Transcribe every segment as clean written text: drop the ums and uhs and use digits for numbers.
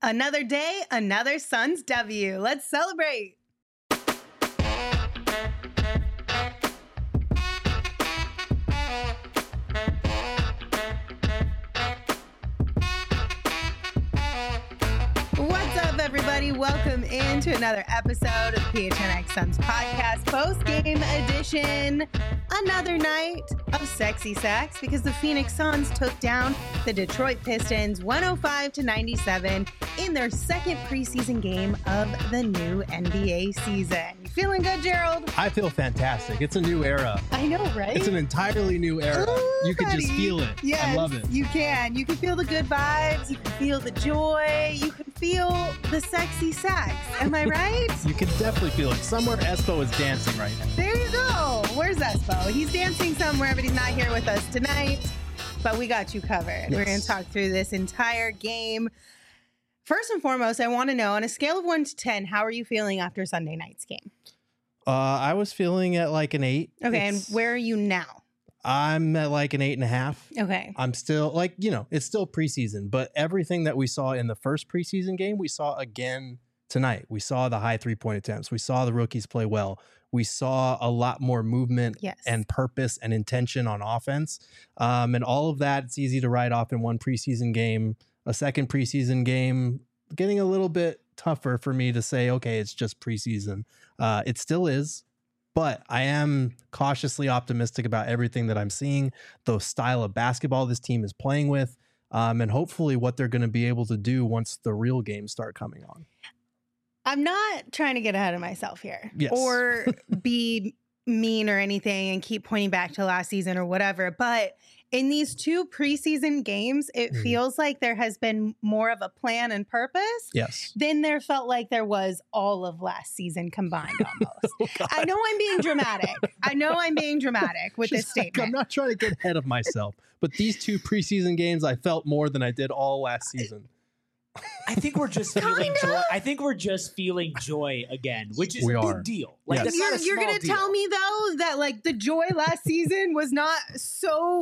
Another day, another Suns W. Let's celebrate. What's up, everybody? Welcome into another episode of PHNX Suns podcast, post-game edition. Another night of sexy sacks because the Phoenix Suns took down the Detroit Pistons 105-97 in their second preseason game of the new NBA season. You feeling good, Gerald? I feel fantastic. It's a new era. I know, right? It's an entirely new era. Ooh, you can buddy. just feel it. Yes, I love it. You can. You can feel the good vibes. You can feel the joy. You can feel the sexy sacks. Am I right? You can definitely feel it. Somewhere Espo is dancing right now. There you go. Where's Espo? He's dancing somewhere, but he's not here with us tonight. But we got you covered. Yes. We're going to talk through this entire game. First and foremost, I want to know, on a scale of 1 to 10, how are you feeling after Sunday night's game? I was feeling at like an 8. Okay, and where are you now? I'm at like an 8.5. Okay. I'm still like, it's still preseason, but everything that we saw in the first preseason game, we saw again tonight. We saw the high 3-point attempts. We saw the rookies play well. We saw a lot more movement and purpose and intention on offense. And all of that, it's easy to write off in one preseason game. A second preseason game, getting a little bit tougher for me to say, okay, it's just preseason. It still is. But I am cautiously optimistic about everything that I'm seeing, the style of basketball this team is playing with, and hopefully what they're going to be able to do once the real games start coming on. I'm not trying to get ahead of myself here or be mean or anything and keep pointing back to last season or whatever. But in these two preseason games, it feels like there has been more of a plan and purpose than there felt like there was all of last season combined almost. I know I'm being dramatic with this statement. I'm not trying to get ahead of myself, but these two preseason games, I felt more than I did all last season. I think we're just feeling joy. I think we're just feeling joy again, which is a big deal. Like you're gonna tell me though that like the joy last season was not so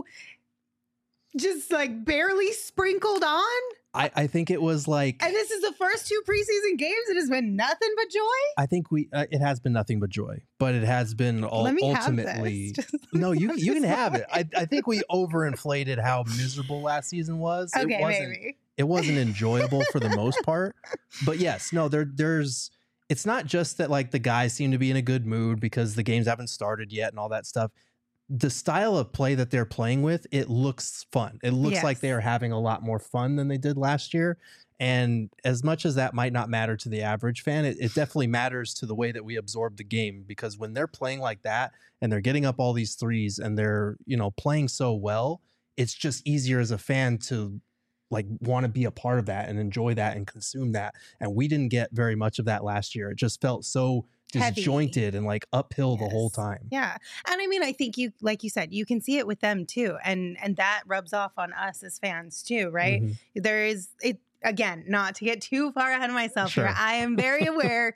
just like barely sprinkled on? I think it was like, and this is the first two preseason games. It has been nothing but joy. I think it has been nothing but joy, but it has been ultimately. No, you can have it. I think we overinflated how miserable last season was. Okay, maybe. It wasn't enjoyable for the most part, but yes, no, there's, it's not just that like the guys seem to be in a good mood because the games haven't started yet and all that stuff. The style of play that they're playing with, it looks fun. It looks like they are having a lot more fun than they did last year. And as much as that might not matter to the average fan, it definitely matters to the way that we absorb the game, because when they're playing like that and they're getting up all these threes and they're, playing so well, it's just easier as a fan to like want to be a part of that and enjoy that and consume that. And we didn't get very much of that last year. It just felt so disjointed and like uphill the whole time. Yeah. And I mean, I think you, like you said, you can see it with them too. And that rubs off on us as fans too, right? Mm-hmm. There is, again, not to get too far ahead of myself here. I am very aware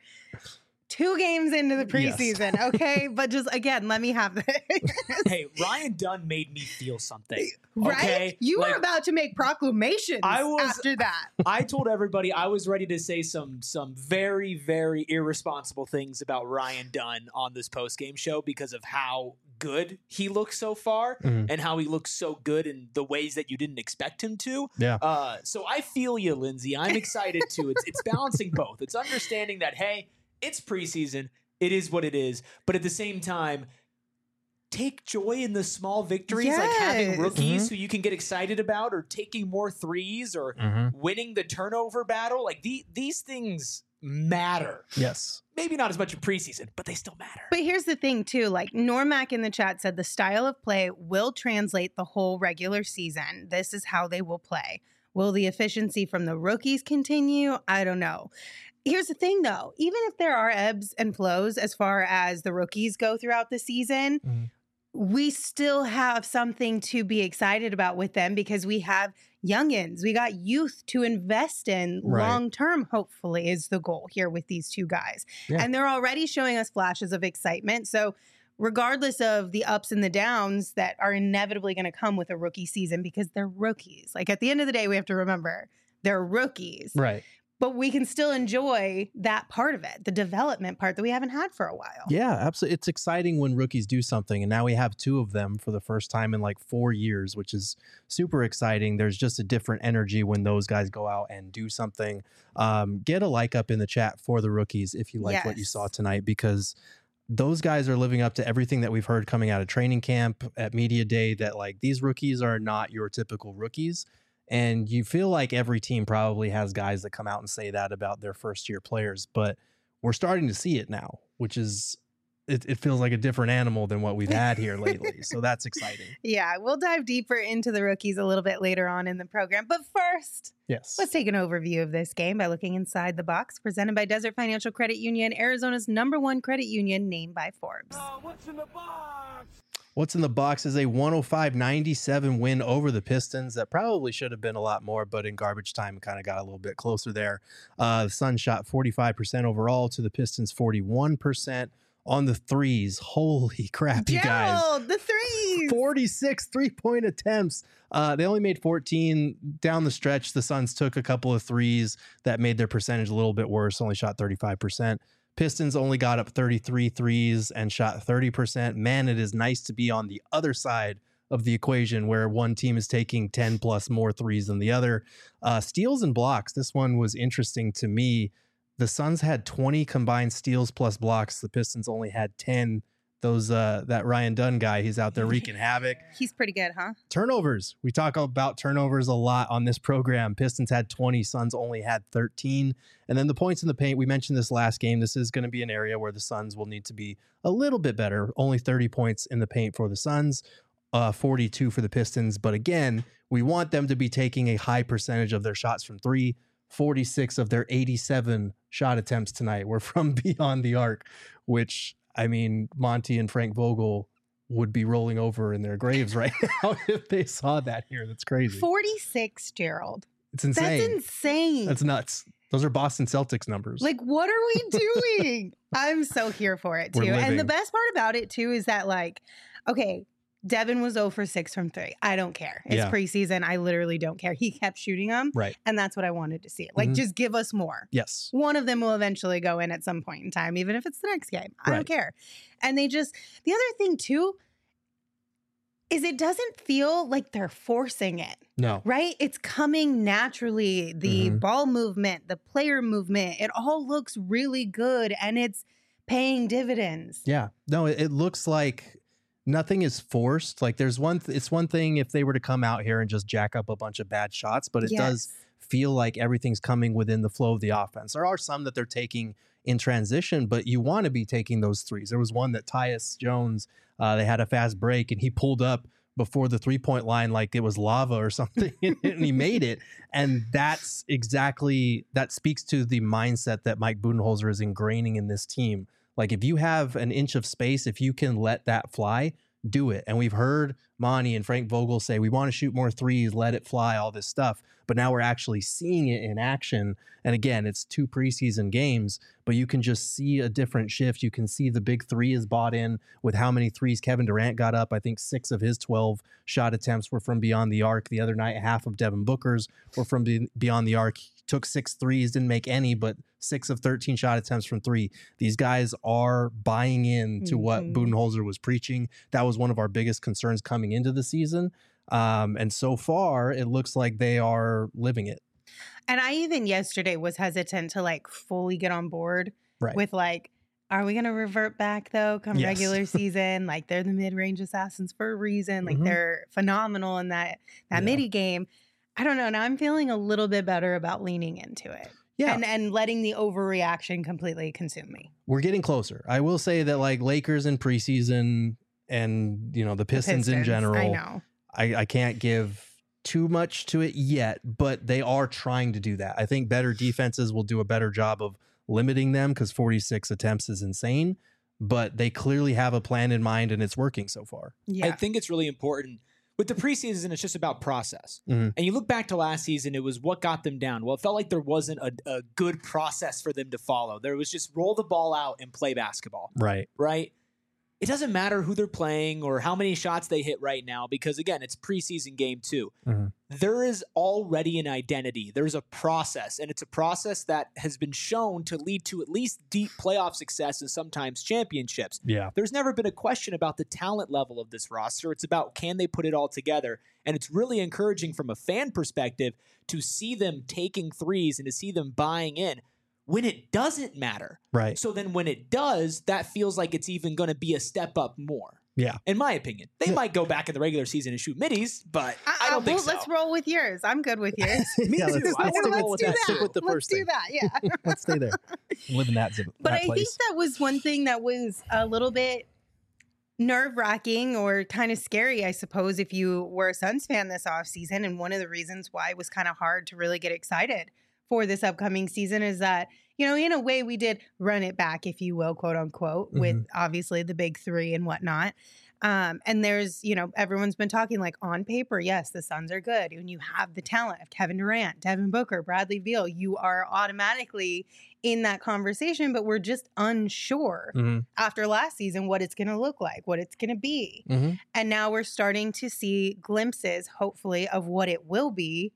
2 games into the preseason, okay? But just, again, let me have this. Hey, Ryan Dunn made me feel something. Right? Okay? You were about to make proclamations after that. I told everybody I was ready to say some very, very irresponsible things about Ryan Dunn on this post-game show because of how good he looks so far and how he looks so good in the ways that you didn't expect him to. Yeah. So I feel you, Lindsay. I'm excited too. It's balancing both. It's understanding that, hey, it's preseason. It is what it is. But at the same time, take joy in the small victories, like having rookies who you can get excited about, or taking more threes, or winning the turnover battle. Like these things matter. Yes. Maybe not as much in preseason, but they still matter. But here's the thing too, like Normac in the chat said, the style of play will translate the whole regular season. This is how they will play. Will the efficiency from the rookies continue? I don't know. Here's the thing, though. Even if there are ebbs and flows as far as the rookies go throughout the season, we still have something to be excited about with them because we have youngins. We got youth to invest in long-term, hopefully, is the goal here with these two guys. Yeah. And they're already showing us flashes of excitement. So regardless of the ups and the downs that are inevitably going to come with a rookie season, because they're rookies. Like at the end of the day, we have to remember they're rookies. Right. but we can still enjoy that part of it, the development part that we haven't had for a while. Yeah, absolutely. It's exciting when rookies do something, and now we have 2 of them for the first time in like 4 years, which is super exciting. There's just a different energy when those guys go out and do something. Get a like up in the chat for the rookies if you like what you saw tonight, because those guys are living up to everything that we've heard coming out of training camp at media day, that like these rookies are not your typical rookies. And you feel like every team probably has guys that come out and say that about their first year players, but we're starting to see it now, which is, it feels like a different animal than what we've had here lately. So that's exciting. Yeah, we'll dive deeper into the rookies a little bit later on in the program. But first, Yes, let's take an overview of this game by looking inside the box, presented by Desert Financial Credit Union, Arizona's #1 credit union, named by Forbes. What's in the box? What's in the box is a 105-97 win over the Pistons. That probably should have been a lot more, but in garbage time, it kind of got a little bit closer there. The Suns shot 45% overall to the Pistons 41% on the threes. Holy crap, you guys. Gerald, the threes. 46 3-point attempts. They only made 14 down the stretch. The Suns took a couple of threes that made their percentage a little bit worse, only shot 35%. Pistons only got up 33 threes and shot 30%. Man, it is nice to be on the other side of the equation where one team is taking 10 plus more threes than the other. Steals and blocks. This one was interesting to me. The Suns had 20 combined steals plus blocks. The Pistons only had 10. That Ryan Dunn guy, he's out there wreaking havoc. He's pretty good, huh? Turnovers. We talk about turnovers a lot on this program. Pistons had 20, Suns only had 13. And then the points in the paint, we mentioned this last game. This is going to be an area where the Suns will need to be a little bit better. Only 30 points in the paint for the Suns, 42 for the Pistons. But again, we want them to be taking a high percentage of their shots from three. 46 of their 87 shot attempts tonight were from beyond the arc, which, I mean, Monty and Frank Vogel would be rolling over in their graves right now if they saw that here. That's crazy. 46, Gerald. It's insane. That's insane. That's nuts. Those are Boston Celtics numbers. Like, what are we doing? I'm so here for it, too. And the best part about it, too, is that, like, okay, Devin was 0 for 6 from 3. I don't care. It's preseason. I literally don't care. He kept shooting them. Right. And that's what I wanted to see. Like, just give us more. Yes. One of them will eventually go in at some point in time, even if it's the next game. I don't care. And the other thing, too, is it doesn't feel like they're forcing it. No. Right? It's coming naturally. The ball movement, the player movement, it all looks really good and it's paying dividends. Yeah. No, it looks like nothing is forced. Like it's one thing if they were to come out here and just jack up a bunch of bad shots, but it does feel like everything's coming within the flow of the offense. There are some that they're taking in transition, but you want to be taking those threes. There was one that Tyus Jones, they had a fast break and he pulled up before the 3-point line like it was lava or something and he made it. And that speaks to the mindset that Mike Budenholzer is ingraining in this team. Like if you have an inch of space, if you can let that fly, do it. And we've heard Monty and Frank Vogel say, we want to shoot more threes, let it fly, all this stuff. But now we're actually seeing it in action. And again, it's 2 preseason games, but you can just see a different shift. You can see the big three is bought in with how many threes Kevin Durant got up. I think 6 of his 12 shot attempts were from beyond the arc. The other night, half of Devin Booker's were from beyond the arc. He took 6 threes, didn't make any, but 6 of 13 shot attempts from 3. These guys are buying in to what Budenholzer was preaching. That was one of our biggest concerns coming into the season. And so far, it looks like they are living it. And I even yesterday was hesitant to like fully get on board with like, are we going to revert back though come regular season? Like they're the mid-range assassins for a reason. Like they're phenomenal in that midi game. I don't know. Now I'm feeling a little bit better about leaning into it. Yeah. And letting the overreaction completely consume me. We're getting closer. I will say that like Lakers in preseason and, you know, the Pistons in general, I know. I can't give too much to it yet, but they are trying to do that. I think better defenses will do a better job of limiting them because 46 attempts is insane, but they clearly have a plan in mind and it's working so far. Yeah. I think it's really important. With the preseason, it's just about process. And you look back to last season, it was what got them down. Well, it felt like there wasn't a good process for them to follow. There was just roll the ball out and play basketball. Right. Right? it doesn't matter who they're playing or how many shots they hit right now, because again, it's preseason game 2. Mm-hmm. There is already an identity. There's a process, and it's a process that has been shown to lead to at least deep playoff success and sometimes championships. Yeah. There's never been a question about the talent level of this roster. It's about, can they put it all together? And it's really encouraging from a fan perspective to see them taking threes and to see them buying in when it doesn't matter. Right. So then when it does, that feels like it's even going to be a step up more. Yeah. In my opinion. They might go back in the regular season and shoot middies, but I don't think so. Let's roll with yours. I'm good with yours. Me Yeah, too. I want to roll with that. Stick with the Let's first do thing. that. Yeah. Let's stay there. Live in that zip. But that I place. think that was one thing that was a little bit nerve-wracking or kind of scary, I suppose, if you were a Suns fan this offseason. And one of the reasons why it was kind of hard to really get excited for this upcoming season is that, you know, in a way we did run it back, if you will, quote unquote, with obviously the big three and whatnot. And there's, you know, everyone's been talking like on paper, yes, the Suns are good. When you have the talent of Kevin Durant, Devin Booker, Bradley Beal, you are automatically in that conversation, but we're just unsure after last season what it's going to look like, what it's going to be. And now we're starting to see glimpses, hopefully, of what it will be.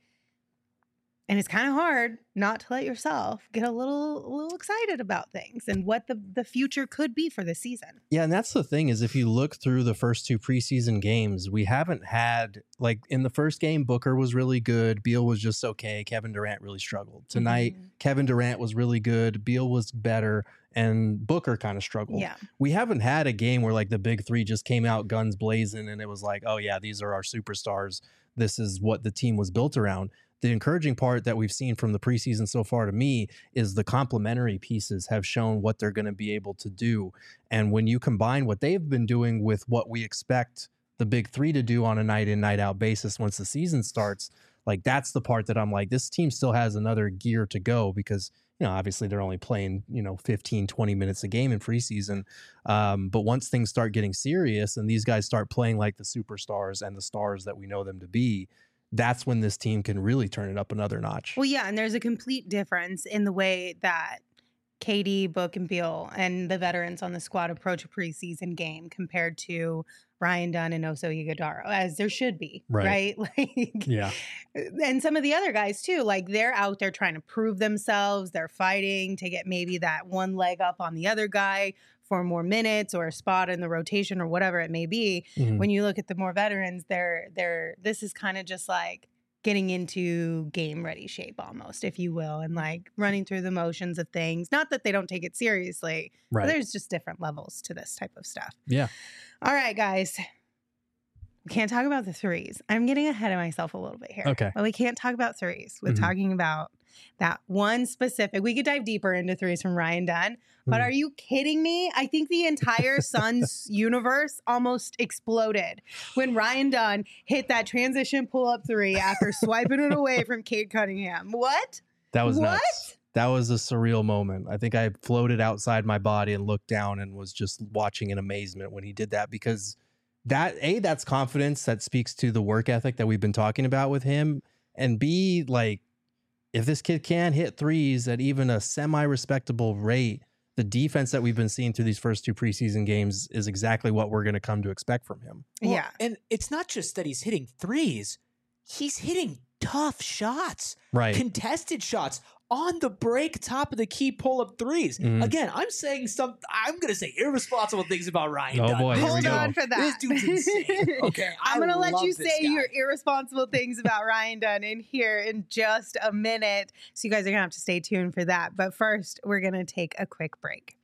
And it's kind of hard not to let yourself get a little excited about things and what the future could be for the season. Yeah, and that's the thing is if you look through the first 2 preseason games, we haven't had, like in the first game, Booker was really good. Beal was just okay. Kevin Durant really struggled. Tonight, Kevin Durant was really good. Beal was better. And Booker kind of struggled. Yeah. We haven't had a game where like the big three just came out guns blazing and it was like, oh yeah, these are our superstars. This is what the team was built around. The encouraging part that we've seen from the preseason so far to me is the complementary pieces have shown what they're going to be able to do. And when you combine what they've been doing with what we expect the big three to do on a night in, night out basis once the season starts, like that's the part that I'm like, this team still has another gear to go because, you know, obviously they're only playing, 15, 20 minutes a game in preseason. But once things start getting serious and these guys start playing like the superstars and the stars that we know them to be, that's when this team can really turn it up another notch. Well, yeah, and there's a complete difference in the way that KD, Book, and Beal and the veterans on the squad approach a preseason game compared to Ryan Dunn and Oso Ighodaro, as there should be, right? Like, yeah. And some of the other guys too, like they're out there trying to prove themselves. They're fighting to get maybe that one leg up on the other guy for more minutes or a spot in the rotation or whatever it may be. When you look at the more veterans, this is kind of just like getting into game ready shape almost, if you will, and like running through the motions of things. Not that they don't take it seriously, but there's just different levels to this type of stuff. Yeah. All right, guys. We can't talk about the threes. I'm getting ahead of myself a little bit here. Okay. But we can't talk about threes. We're talking about that one specific. We could dive deeper into threes from Ryan Dunn. But are you kidding me? I think the entire Suns universe almost exploded when Ryan Dunn hit that transition pull-up three after swiping it away from Cade Cunningham. What? That was what? nuts. That was a surreal moment. I think I floated outside my body and looked down and was just watching in amazement when he did that because that's confidence that speaks to the work ethic that we've been talking about with him. And B, like, if this kid can hit threes at even a semi-respectable rate, the defense that we've been seeing through these first 2 preseason games is exactly what we're going to come to expect from him. Well, yeah. And it's not just that he's hitting threes. He's hitting tough shots. Right. Contested shots. On the break, top of the key pull-up threes. Again, I'm going to say irresponsible things about Ryan Dunn. Boy, Hold on for that. This dude's insane. Okay, I'm going to let you love this say guy. your irresponsible things about Ryan Dunn in here in just a minute. So you guys are going to have to stay tuned for that. But first, we're going to take a quick break.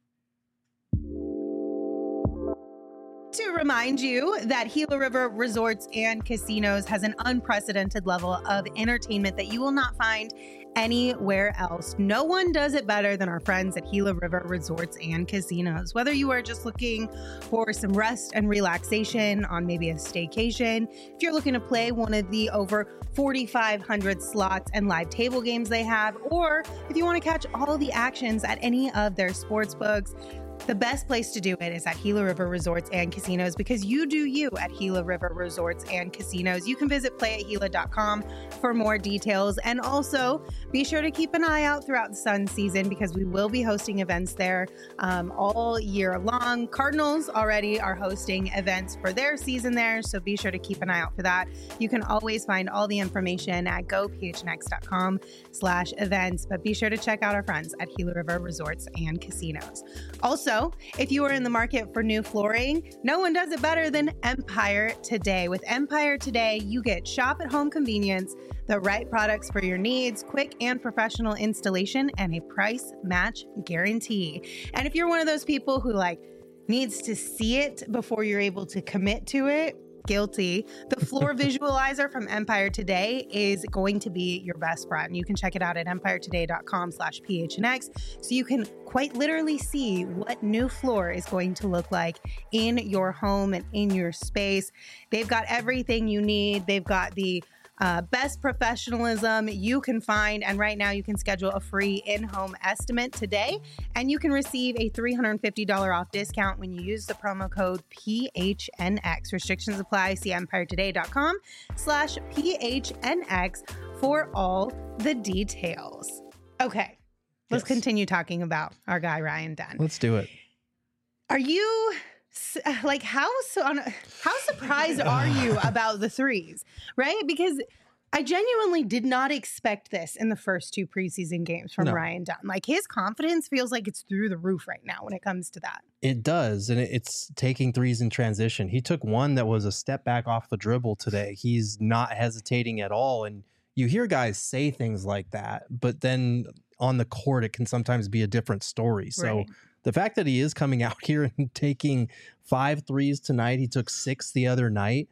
To remind you that Gila River Resorts and Casinos has an unprecedented level of entertainment that you will not find anywhere else. No one does it better than our friends at Gila River Resorts and Casinos. Whether you are just looking for some rest and relaxation on maybe a staycation, if you're looking to play one of the over 4,500 slots and live table games they have, or if you want to catch all the actions at any of their sports books, The best place to do it is at Gila River Resorts and Casinos, because you do you at Gila River Resorts and Casinos. You can visit playatgila.com for more details. And also be sure to keep an eye out throughout the Sun season, because we will be hosting events there all year long. Cardinals already are hosting events for their season there, so be sure to keep an eye out for that. You can always find all the information at gophnx.com/events, but be sure to check out our friends at Gila River Resorts and Casinos. Also, if you are in the market for new flooring, no one does it better than Empire Today. With Empire Today, you get shop-at-home convenience, the right products for your needs, quick and professional installation, and a price match guarantee. And if you're one of those people who needs to see it before you're able to commit to it, guilty. The floor visualizer from Empire Today is going to be your best friend. You can check it out at empiretoday.com/phnx, so you can quite literally see what new floor is going to look like in your home and in your space. They've got everything you need. They've got the best professionalism you can find. And right now you can schedule a free in-home estimate today, and you can receive a $350 off discount when you use the promo code PHNX. Restrictions apply. See empiretoday.com/PHNX for all the details. Okay, let's continue talking about our guy, Ryan Dunn. Let's do it. Are you how surprised are you about the threes, right? Because I genuinely did not expect this in the first two preseason games from Ryan Dunn. His confidence feels like it's through the roof right now when it comes to that. It does, and it's taking threes in transition. He took one that was a step back off the dribble today. He's not hesitating at all, and you hear guys say things like that, but then on the court, it can sometimes be a different story. So right. The fact that he is coming out here and taking 5 threes tonight, he took 6 the other night.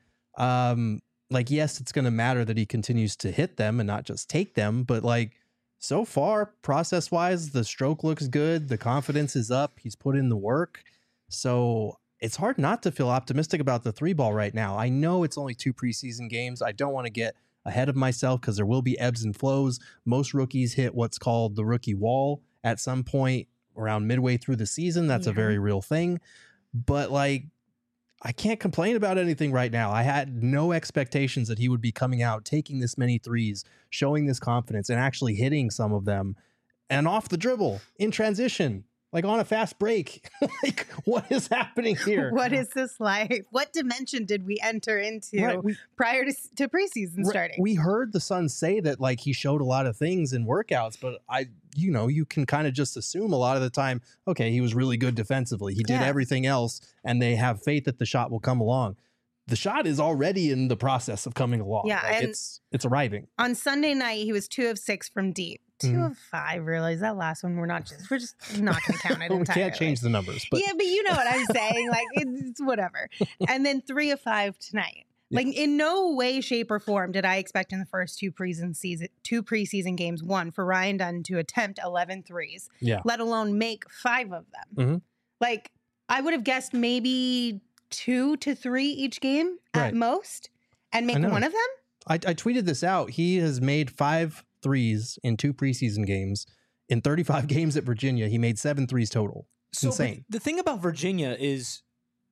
Yes, it's going to matter that he continues to hit them and not just take them. But so far, process wise, the stroke looks good. The confidence is up. He's put in the work. So it's hard not to feel optimistic about the 3-ball right now. I know it's only 2 preseason games. I don't want to get ahead of myself because there will be ebbs and flows. Most rookies hit what's called the rookie wall at some point around midway through the season. That's a very real thing. But I can't complain about anything right now. I had no expectations that he would be coming out, taking this many threes, showing this confidence, and actually hitting some of them, and off the dribble in transition, on a fast break. What is happening here? What is this like? What dimension did we enter into prior to preseason starting? We heard the Suns say that he showed a lot of things in workouts, but you can kind of just assume a lot of the time, okay, he was really good defensively. He did everything else, and they have faith that the shot will come along. The shot is already in the process of coming along. Yeah, it's arriving. On Sunday night, he was 2 of 6 from deep. 2 of 5, really. That last one, we're just not going to count it. We can't change the numbers. But. Yeah, but you know what I'm saying. It's whatever. And then 3 of 5 tonight. In no way, shape, or form did I expect in the first 2 preseason games, for Ryan Dunn to attempt 11 threes, let alone make 5 of them. Mm-hmm. I would have guessed maybe 2 to 3 each game at most, and make one of them. I tweeted this out. He has made 5 threes in 2 preseason games. In 35 games at Virginia, he made 7 threes total. It's insane. The thing about Virginia is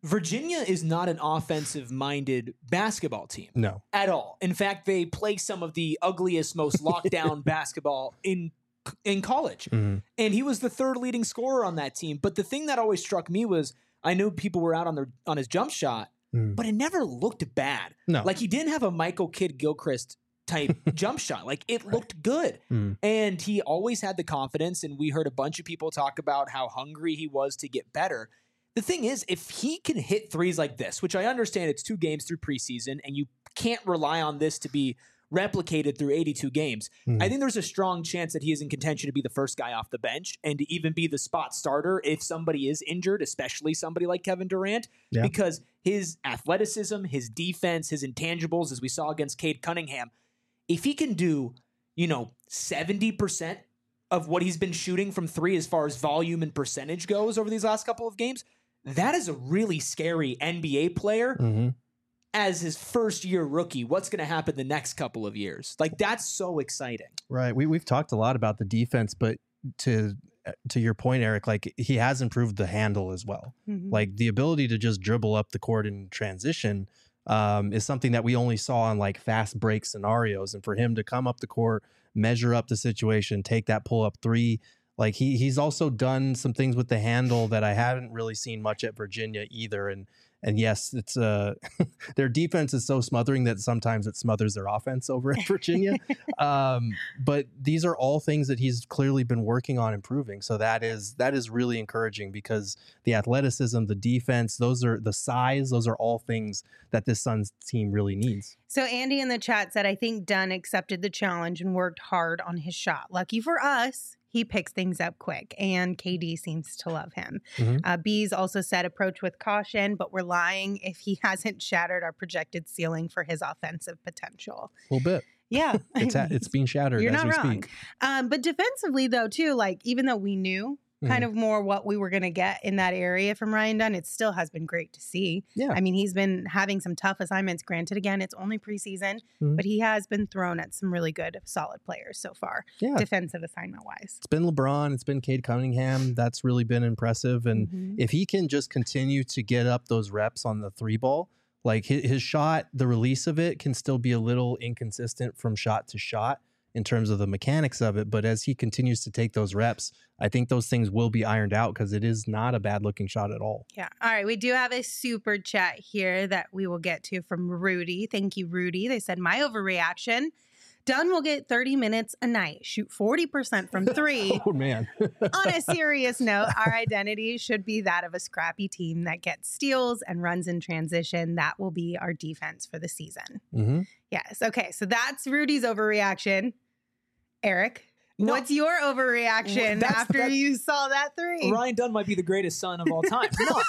not an offensive-minded basketball team. No. At all. In fact, they play some of the ugliest, most lockdown basketball in college. Mm-hmm. And he was the 3rd leading scorer on that team. But the thing that always struck me was, I knew people were out on his jump shot, but it never looked bad. No. He didn't have a Michael Kidd-Gilchrist type jump shot. It looked good. And he always had the confidence, and we heard a bunch of people talk about how hungry he was to get better. The thing is, if he can hit threes like this, which I understand it's 2 games through preseason, and you can't rely on this to be replicated through 82 games, I think there's a strong chance that he is in contention to be the first guy off the bench and to even be the spot starter if somebody is injured, especially somebody like Kevin Durant, because his athleticism, his defense, his intangibles, as we saw against Cade Cunningham, if he can do, 70% of what he's been shooting from 3 as far as volume and percentage goes over these last couple of games, that is a really scary NBA player as his first-year rookie. What's going to happen the next couple of years? That's so exciting. Right. We've talked a lot about the defense, but to to your point, Eric, like he has improved the handle as well. Mhm. Like the ability to just dribble up the court in transition is something that we only saw in like fast break scenarios. And for him to come up the court, measure up the situation, take that pull up three, like he's also done some things with the handle that I haven't really seen much at Virginia either. And yes, it's their defense is so smothering that sometimes it smothers their offense over at Virginia. But these are all things that he's clearly been working on improving. So that is really encouraging because the athleticism, the defense, those are the size, those are all things that this Suns team really needs. So Andy in the chat said, I think Dunn accepted the challenge and worked hard on his shot. Lucky for us, he picks things up quick, and KD seems to love him. Mhm. Bees also said approach with caution, but we're lying if he hasn't shattered our projected ceiling for his offensive potential. A little bit. Yeah. It's being shattered You're as not we wrong. speak. But defensively, though, too, like even though we knew kind of more what we were going to get in that area from Ryan Dunn, it still has been great to see. Yeah. I mean, he's been having some tough assignments. Granted, again, it's only preseason, but he has been thrown at some really good, solid players so far, Yeah. defensive assignment wise. It's been LeBron. It's been Cade Cunningham. That's really been impressive. And Mhm. if he can just continue to get up those reps on the three ball, like his shot, the release of it can still be a little inconsistent from shot to shot in terms of the mechanics of it. But as he continues to take those reps, I think those things will be ironed out because it is not a bad looking shot at all. Yeah. All right. We do have a super chat here that we will get to from Rudy. Thank you, Rudy. They said, my overreaction. Dunn will get 30 minutes a night, shoot 40% from three. Oh, man. On a serious note, our identity should be that of a scrappy team that gets steals and runs in transition. That will be our defense for the season. Mm-hmm. Yes. Okay. So that's Rudy's overreaction. Eric, No. what's your overreaction That's- after that- you saw that three? Ryan Dunn might be the greatest son of all time. No,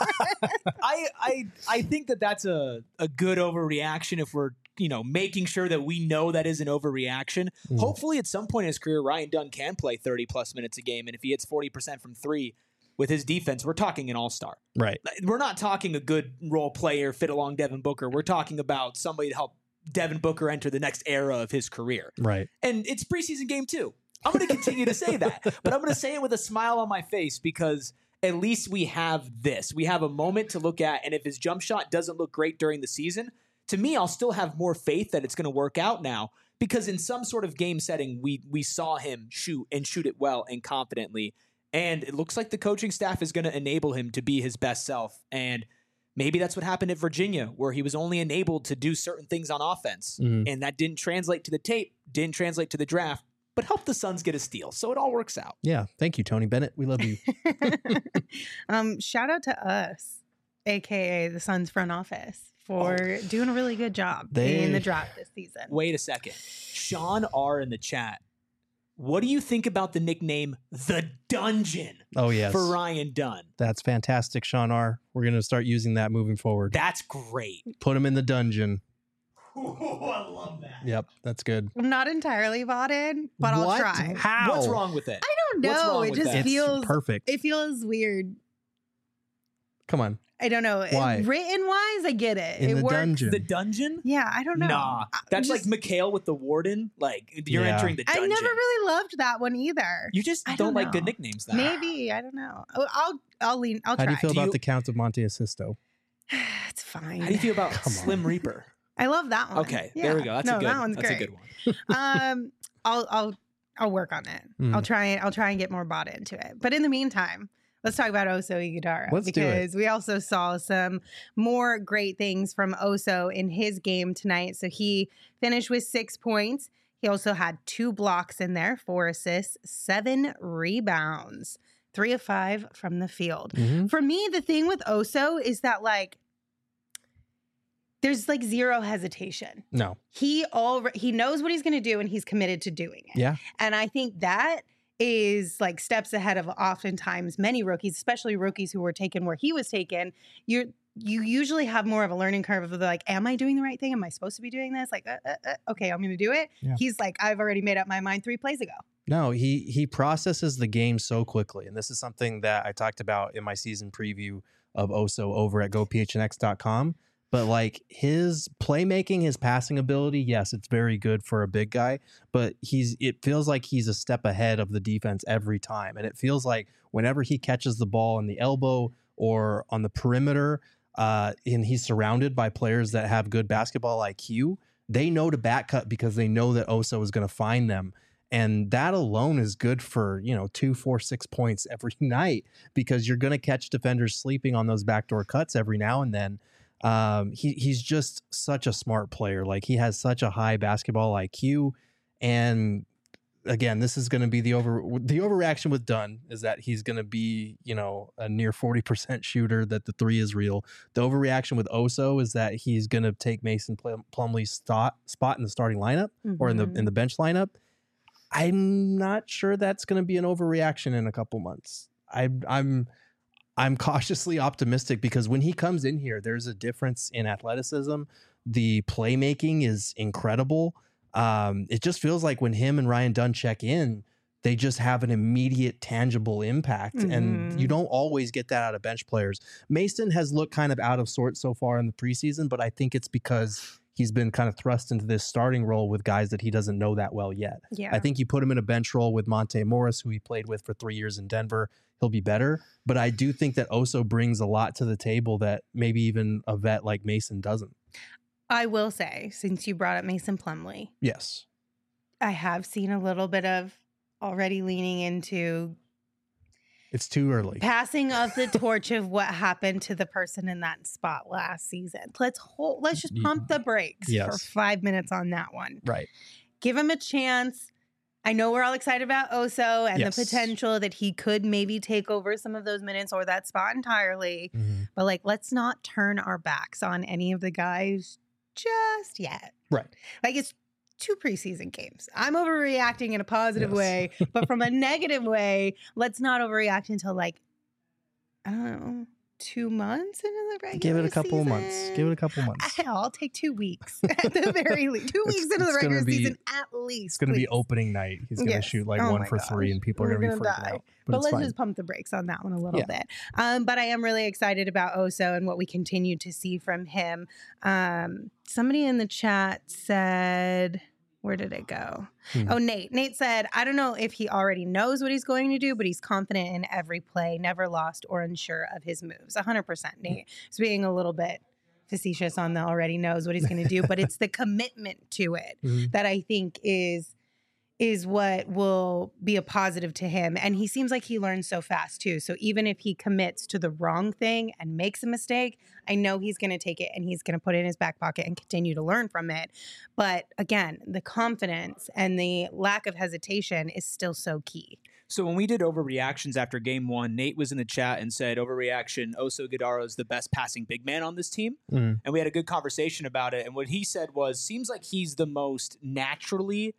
I think that that's a good overreaction if we're making sure that we know that is an overreaction. Mm. Hopefully, at some point in his career, Ryan Dunn can play 30 plus minutes a game, and if he hits 40% from three with his defense, we're talking an all-star. Right. We're not talking a good role player fit along Devin Booker. We're talking about somebody to help Devin Booker enter the next era of his career. Right. And it's preseason game 2. I'm going to continue to say that, but I'm going to say it with a smile on my face because at least we have this. We have a moment to look at, and if his jump shot doesn't look great during the season, to me, I'll still have more faith that it's going to work out now because in some sort of game setting, we saw him shoot it well and confidently, and it looks like the coaching staff is going to enable him to be his best self. And maybe that's what happened at Virginia, where he was only enabled to do certain things on offense, and that didn't translate to the tape, didn't translate to the draft, but helped the Suns get a steal. So it all works out. Yeah. Thank you, Tony Bennett. We love you. Shout out to us, aka the Suns front office, for doing a really good job in the draft this season. Wait a second. Sean R. in the chat. What do you think about the nickname The Dungeon Oh, yes. for Ryan Dunn? That's fantastic, Sean R. We're going to start using that moving forward. That's great. Put him in the dungeon. I love that. Yep. That's good. I'm not entirely bought in, but I'll What? try. How? What's wrong with it? I don't What's know. wrong It with just that? It's feels perfect. It feels weird. Come on. I don't know. Why? Written wise, I get it. In it the works. dungeon. The Dungeon? Yeah, I don't know. Nah. That's like McHale with the Warden. Like, you're Yeah. entering the I dungeon. never really loved that one either. You just I don't don't like good know. nicknames then. Maybe I don't know. I'll lean. I'll How try. do you feel Do about you- the Count of Monte Sisto? It's fine. How do you feel about Come on. Slim Reaper? I love that one. Okay, Yeah. there we go. That's no, a good. that one's that's great. a good one. I'll work on it. Mm. I'll try and get more bought into it. But in the meantime, let's talk about Oso Iguodala Let's do it. because we also saw some more great things from Oso in his game tonight. So he finished with 6 points. He also had 2 blocks in there, 4 assists, 7 rebounds, 3 of 5 from the field. Mhm. For me, the thing with Oso is that there's zero hesitation. No. He knows what he's going to do and he's committed to doing it. Yeah. And I think that is steps ahead of oftentimes many rookies, especially rookies who were taken where he was taken. You usually have more of a learning curve of am I doing the right thing? Am I supposed to be doing this? Okay, I'm going to do it. Yeah. He's I've already made up my mind 3 plays ago. No, he processes the game so quickly. And this is something that I talked about in my season preview of Oso over at gophnx.com. But like his playmaking, his passing ability, yes, it's very good for a big guy, but it feels like he's a step ahead of the defense every time. And it feels like whenever he catches the ball in the elbow or on the perimeter, and he's surrounded by players that have good basketball IQ, they know to back cut because they know that Oso is going to find them. And that alone is good for, 2, 4, 6 points every night because you're going to catch defenders sleeping on those backdoor cuts every now and then. He's just such a smart player. Like he has such a high basketball IQ. And again, this is going to be the overreaction with Dunn is that he's going to be, a near 40% shooter, that the three is real. The overreaction with Oso is that he's going to take Mason Plumlee's spot in the starting lineup or in the bench lineup. I'm not sure that's going to be an overreaction in a couple months. I'm cautiously optimistic because when he comes in here, there's a difference in athleticism. The playmaking is incredible. It just feels like when him and Ryan Dunn check in, they just have an immediate tangible impact. And you don't always get that out of bench players. Mason has looked kind of out of sorts so far in the preseason, but I think it's because he's been kind of thrust into this starting role with guys that he doesn't know that well yet. Yeah. I think you put him in a bench role with Monte Morris, who he played with for 3 years in Denver. He'll be better. But I do think that Oso brings a lot to the table that maybe even a vet like Mason doesn't. I will say, since you brought up Mason Plumlee, Yes. I have seen a little bit of already leaning into It's too early. passing of the torch of what happened to the person in that spot last season. Let's just pump the brakes for 5 minutes on that one. Right. Give him a chance. I know we're all excited about Oso and the potential that he could maybe take over some of those minutes or that spot entirely. But let's not turn our backs on any of the guys just yet. Right. It's 2 preseason games. I'm overreacting in a positive way, but from a negative way, let's not overreact until I don't know, 2 months into the regular Give it a couple season. months. Give it a couple months. I'll take 2 weeks at the very least. 2 weeks into the regular season at least. It's going to be opening night. He's going to shoot 1 for 3 and people are going to be freaking out. But let's just pump the brakes on that one a little bit. But I am really excited about Oso and what we continue to see from him. Somebody in the chat said, where did it go? Oh, Nate. Nate said, I don't know if he already knows what he's going to do, but he's confident in every play, never lost or unsure of his moves. 100%. Nate is being a little bit facetious on the already knows what he's going to do, but it's the commitment to it that I think is what will be a positive to him. And he seems like he learns so fast too. So even if he commits to the wrong thing and makes a mistake, I know he's going to take it and he's going to put it in his back pocket and continue to learn from it. But again, the confidence and the lack of hesitation is still so key. So when we did overreactions after game 1, Nate was in the chat and said, overreaction, Oso Guidaro is the best passing big man on this team. And we had a good conversation about it. And what he said was, seems like he's the most naturally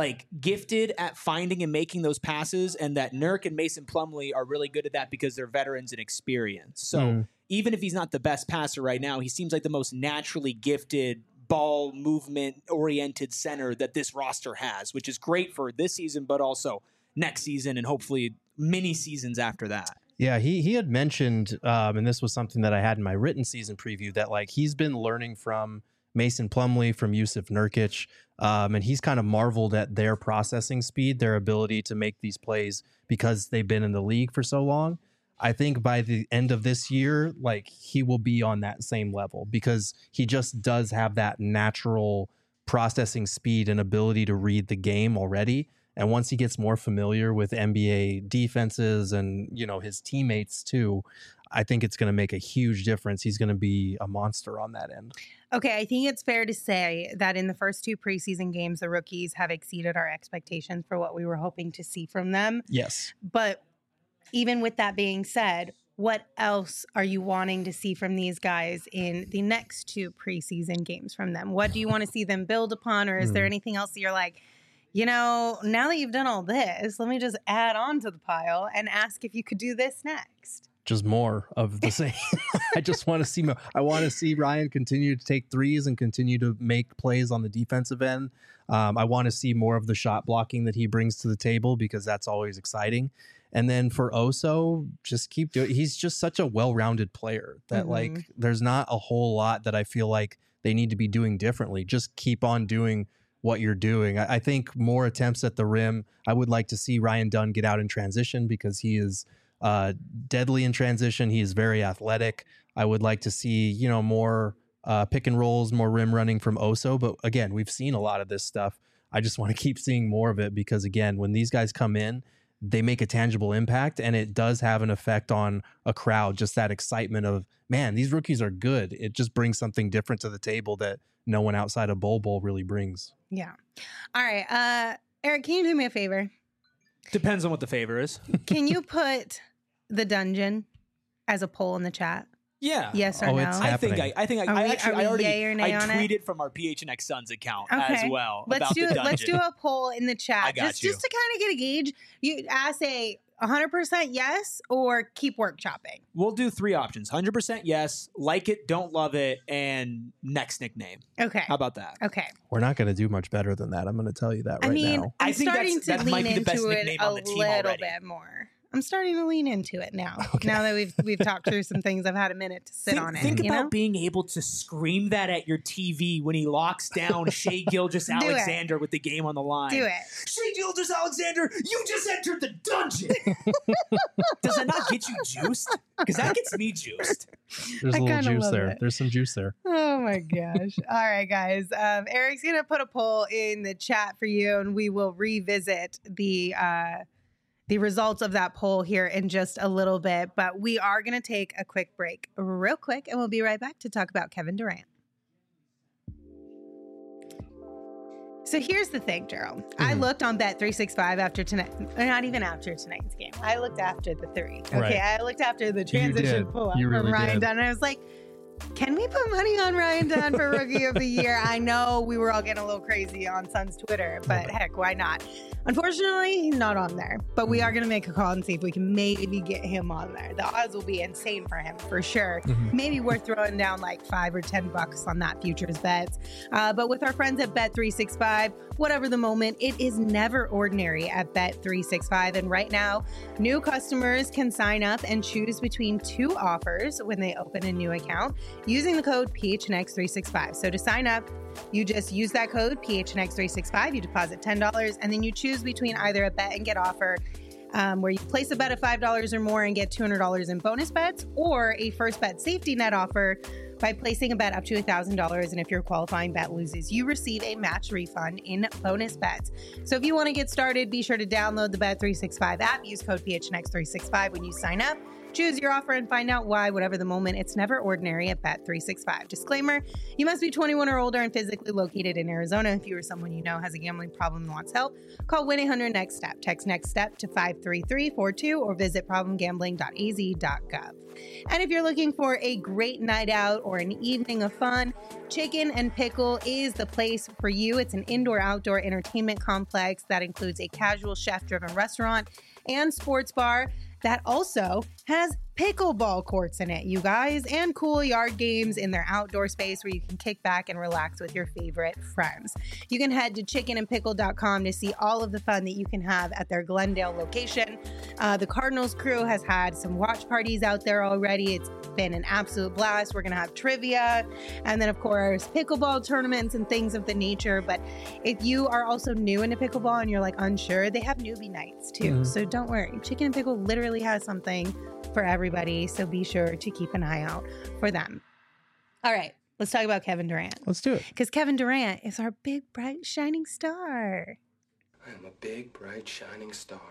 gifted at finding and making those passes, and that Nurk and Mason Plumlee are really good at that because they're veterans and experience. So even if he's not the best passer right now, he seems like the most naturally gifted ball movement oriented center that this roster has, which is great for this season, but also next season and hopefully many seasons after that. Yeah, he had mentioned, and this was something that I had in my written season preview, that he's been learning from Mason Plumlee, from Jusuf Nurkic, and he's kind of marveled at their processing speed, their ability to make these plays because they've been in the league for so long. I think by the end of this year, he will be on that same level because he just does have that natural processing speed and ability to read the game already. And once he gets more familiar with NBA defenses and, his teammates too, I think it's going to make a huge difference. He's going to be a monster on that end. Okay, I think it's fair to say that in the first 2 preseason games, the rookies have exceeded our expectations for what we were hoping to see from them. Yes. But even with that being said, what else are you wanting to see from these guys in the next 2 preseason games from them? What do you want to see them build upon? Or is there anything else that you're like, now that you've done all this, let me just add on to the pile and ask if you could do this next? Just more of the same. I just want to see more. I want to see Ryan continue to take threes and continue to make plays on the defensive end. I want to see more of the shot blocking that he brings to the table because that's always exciting. And then for Oso, just keep doing. He's just such a well-rounded player that like there's not a whole lot that I feel like they need to be doing differently. Just keep on doing what you're doing. I think more attempts at the rim. I would like to see Ryan Dunn get out in transition because he is deadly in transition. He is very athletic. I would like to see, you know, more pick and rolls, more rim running from Oso. But again, we've seen a lot of this stuff. I just want to keep seeing more of it because, again, when these guys come in, they make a tangible impact, and it does have an effect on a crowd. Just that excitement of, man, these rookies are good. It just brings something different to the table that no one outside of Bol really brings. Yeah. All right. Eric, can you do me a favor? Depends on what the favor is. Can you put the dungeon as a poll in the chat? Yeah. Yes or no? It's happening. I yay or nay on it? tweeted from our PHNX Suns account Okay. as well Let's about do the dungeon. let's do a poll in the chat. I got just you. to kind of get a gauge. You ask a 100% yes or keep workshopping. We'll do 3 options: 100% yes, like it, don't love it, and next nickname. Okay. How about that? Okay. We're not going to do much better than that. I'm going to tell you that I right mean, now. I'm I think starting that to might lean be the best into it nickname a on the team little already. bit more. I'm starting to lean into it now. Okay. Now that we've talked through some things, I've had a minute to sit on it. Think you about know? being able to scream that at your TV when he locks down Shea Gilgeous Alexander with the game on the line. Do it. Shea Gilgeous Alexander, you just entered the dungeon. Does that not get you juiced? Because that gets me juiced. There's I a little kinda juice love there. it. There's some juice there. Oh my gosh. All right, guys. Eric's going to put a poll in the chat for you, and we will revisit the results of that poll here in just a little bit. But we are going to take a quick break real quick, and we'll be right back to talk about Kevin Durant. So here's the thing, Gerald. I looked on Bet365 after tonight, or not even after tonight's game. I looked after the 3. Okay, Right. I looked after the transition did. pull-up You from really Ryan did. Dunn. And I was like, can we put money on Ryan Dunn for Rookie of the Year? I know we were all getting a little crazy on Suns Twitter, but heck, why not? Unfortunately, he's not on there, but we are going to make a call and see if we can maybe get him on there. The odds will be insane for him, for sure. Maybe we're throwing down like $5 or $10 on that futures bets. But with our friends at Bet365, whatever the moment, it is never ordinary at Bet365. And right now, new customers can sign up and choose between 2 offers when they open a new account using the code PHNX365. So to sign up, you just use that code PHNX365, you deposit $10, and then you choose between either a bet and get offer where you place a bet of $5 or more and get $200 in bonus bets, or a first bet safety net offer by placing a bet up to $1,000. And if your qualifying bet loses, you receive a match refund in bonus bets. So if you want to get started, be sure to download the Bet365 app. Use code PHNX365 when you sign up. Choose your offer and find out why, whatever the moment. It's never ordinary at Bet365. Disclaimer, you must be 21 or older and physically located in Arizona. If you or someone you know has a gambling problem and wants help, call 1-800-NEXT-STEP. Text NEXT STEP to 53342 or visit problemgambling.az.gov. And if you're looking for a great night out or an evening of fun, Chicken and Pickle is the place for you. It's an indoor-outdoor entertainment complex that includes a casual chef-driven restaurant and sports bar that also has pickleball courts in it, you guys, and cool yard games in their outdoor space where you can kick back and relax with your favorite friends. You can head to chickenandpickle.com to see all of the fun that you can have at their Glendale location. The Cardinals crew has had some watch parties out there already. It's been an absolute blast. We're going to have trivia and then, of course, pickleball tournaments and things of the nature. But if you are also new into pickleball and you're like unsure, they have newbie nights too. So don't worry. Chicken and Pickle literally has something for everybody. So be sure to keep an eye out for them. All right, let's talk about Kevin Durant. Let's do it. Because Kevin Durant is our big, bright, shining star. I am a big, bright, shining star.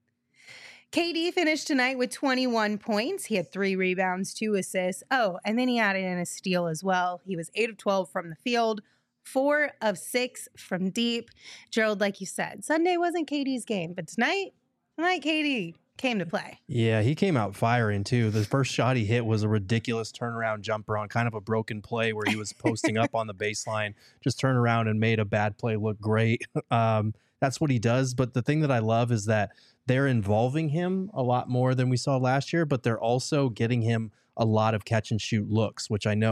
KD finished tonight with 21 points. He had 3 rebounds, 2 assists. Oh, and then he added in a steal as well. He was 8 of 12 from the field, 4 of 6 from deep. Gerald, like you said, Sunday wasn't KD's game, but tonight KD came to play. Yeah, he came out firing too. The first shot he hit was a ridiculous turnaround jumper on kind of a broken play where he was posting up on the baseline, just turned around and made a bad play look great. That's what he does. But the thing that I love is that they're involving him a lot more than we saw last year, but they're also getting him a lot of catch and shoot looks, which I know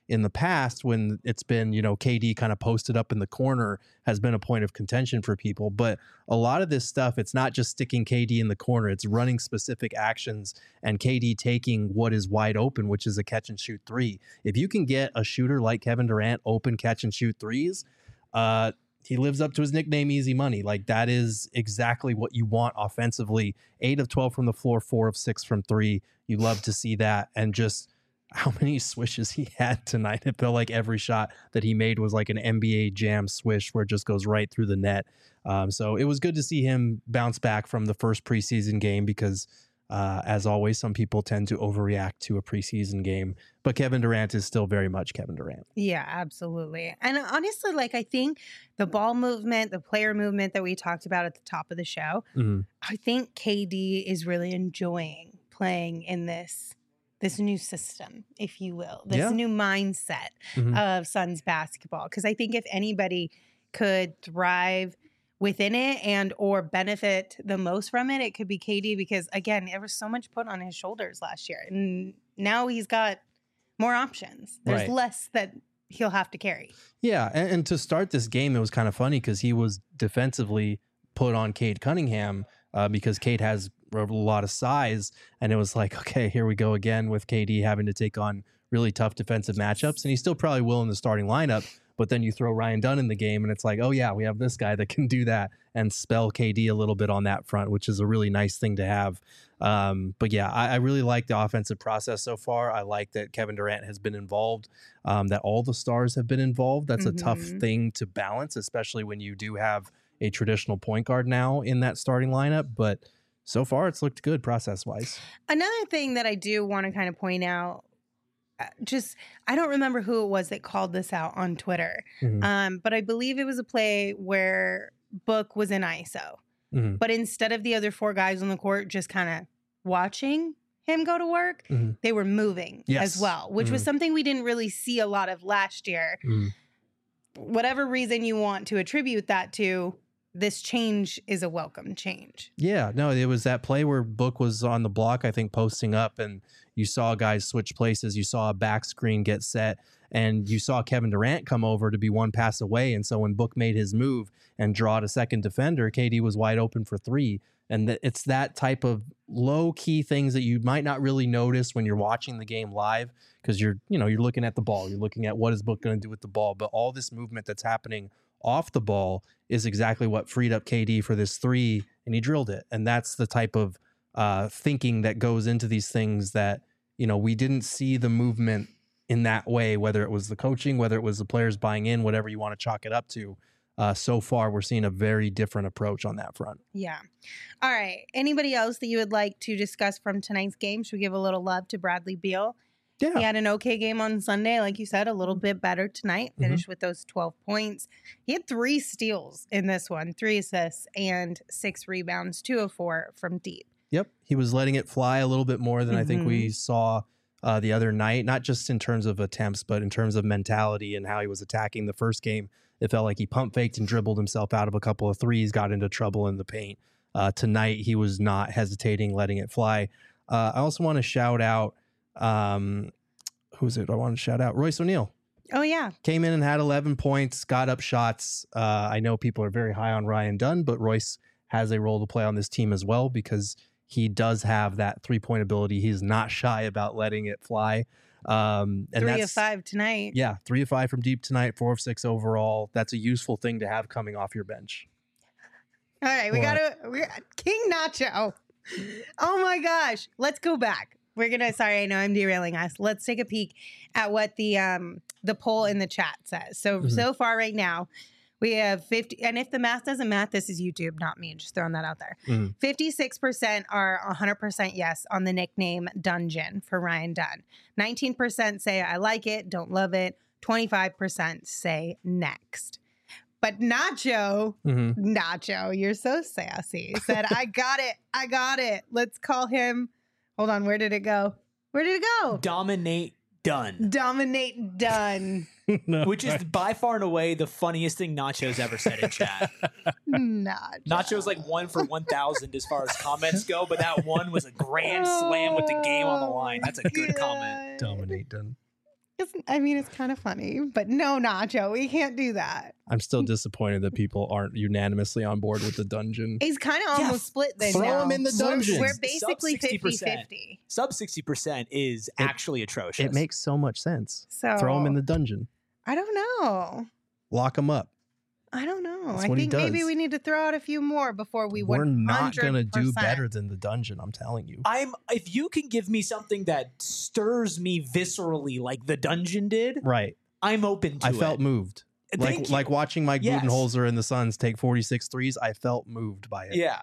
in the past when it's been, KD kind of posted up in the corner has been a point of contention for people. But a lot of this stuff, it's not just sticking KD in the corner, it's running specific actions and KD taking what is wide open, which is a catch and shoot three. If you can get a shooter like Kevin Durant open catch and shoot threes, he lives up to his nickname, Easy Money. Like, that is exactly what you want offensively. 8 of 12 from the floor, 4 of 6 from 3. You love to see that. And just how many swishes he had tonight. It felt like every shot that he made was like an NBA Jam swish where it just goes right through the net. So it was good to see him bounce back from the first preseason game because, as always, some people tend to overreact to a preseason game. But Kevin Durant is still very much Kevin Durant. Yeah, absolutely. And honestly, like, I think the ball movement, the player movement that we talked about at the top of the show, I think KD is really enjoying playing in this new system, if you will, this new mindset of Suns basketball. Because I think if anybody could thrive within it and or benefit the most from it, it could be KD, because again, there was so much put on his shoulders last year, and now he's got more options. There's less that he'll have to carry. Yeah, and to start this game, it was kind of funny because he was defensively put on Cade Cunningham because Cade has a lot of size, and it was like, okay, here we go again with KD having to take on really tough defensive matchups, and he still probably will in the starting lineup. But then you throw Ryan Dunn in the game, and it's like, oh yeah, we have this guy that can do that and spell KD a little bit on that front, which is a really nice thing to have. But yeah, I really like the offensive process so far. I like that Kevin Durant has been involved, that all the stars have been involved. That's a tough thing to balance, especially when you do have a traditional point guard now in that starting lineup. But so far, it's looked good process-wise. Another thing that I do want to kind of point out, I don't remember who it was that called this out on Twitter, but I believe it was a play where Book was in ISO. But instead of the other 4 guys on the court just kind of watching him go to work, they were moving as well, which was something we didn't really see a lot of last year. Whatever reason you want to attribute that to, this change is a welcome change. Yeah, no, it was that play where Book was on the block, I think, posting up, and you saw guys switch places. You saw a back screen get set, and you saw Kevin Durant come over to be one pass away. And so when Book made his move and draw to second defender, KD was wide open for 3. And it's that type of low-key things that you might not really notice when you're watching the game live, because you're looking at the ball. You're looking at what is Book going to do with the ball. But all this movement that's happening off the ball is exactly what freed up KD for this 3, and he drilled it. And that's the type of thinking that goes into these things that, we didn't see the movement in that way, whether it was the coaching, whether it was the players buying in, whatever you want to chalk it up to. So far, we're seeing a very different approach on that front. Yeah. All right. Anybody else that you would like to discuss from tonight's game? Should we give a little love to Bradley Beal? Yeah. He had an okay game on Sunday. Like you said, a little bit better tonight. Finished with those 12 points. He had 3 steals in this one, 3 assists, and 6 rebounds, 2 of 4 from deep. Yep. He was letting it fly a little bit more than I think we saw the other night, not just in terms of attempts, but in terms of mentality and how he was attacking the first game. It felt like he pump faked and dribbled himself out of a couple of threes, got into trouble in the paint. Tonight, he was not hesitating, letting it fly. I also want to shout out, who's it? I want to shout out Royce O'Neal. Oh, yeah. Came in and had 11 points, got up shots. I know people are very high on Ryan Dunn, but Royce has a role to play on this team as well because he does have that 3-point ability. He's not shy about letting it fly. And 3 of 5 tonight. Yeah, 3 of 5 from deep tonight, 4 of 6 overall. That's a useful thing to have coming off your bench. All right, we got King Nacho. Oh my gosh, let's go back. Sorry, I know I'm derailing us. Let's take a peek at what the poll in the chat says. So far right now, we have 50, and if the math doesn't math, this is YouTube, not me. Just throwing that out there. 56% are 100% yes on the nickname Dungeon for Ryan Dunn. 19% say I like it, don't love it. 25% say next. But Nacho, you're so sassy, said, I got it. Let's call him. Hold on, where did it go? Dominate Dunn. No, which is by far and away the funniest thing Nacho's ever said in chat. Nacho's like 1 for 1,000 as far as comments go, but that one was a grand slam with the game on the line. That's a good comment. Dominate Dunn. It's kind of funny, but no, Nacho, we can't do that. I'm still disappointed that people aren't unanimously on board with the dungeon. He's kind of almost split then. Throw now. him in the dungeon. We're basically Sub 60%. 50-50. Sub 60% is actually atrocious. It makes so much sense. So Throw him in the dungeon. I don't know. Lock him up. I don't know. That's I what he think maybe does. we need to throw out a few more before we We're not going to do 100%. better than the dungeon, I'm telling you. If you can give me something that stirs me viscerally like the dungeon did, Right. I'm open to it. I felt moved. Thank you. Like watching Mike Yes. Budenholzer and the Suns take 46 threes, I felt moved by it. Yeah.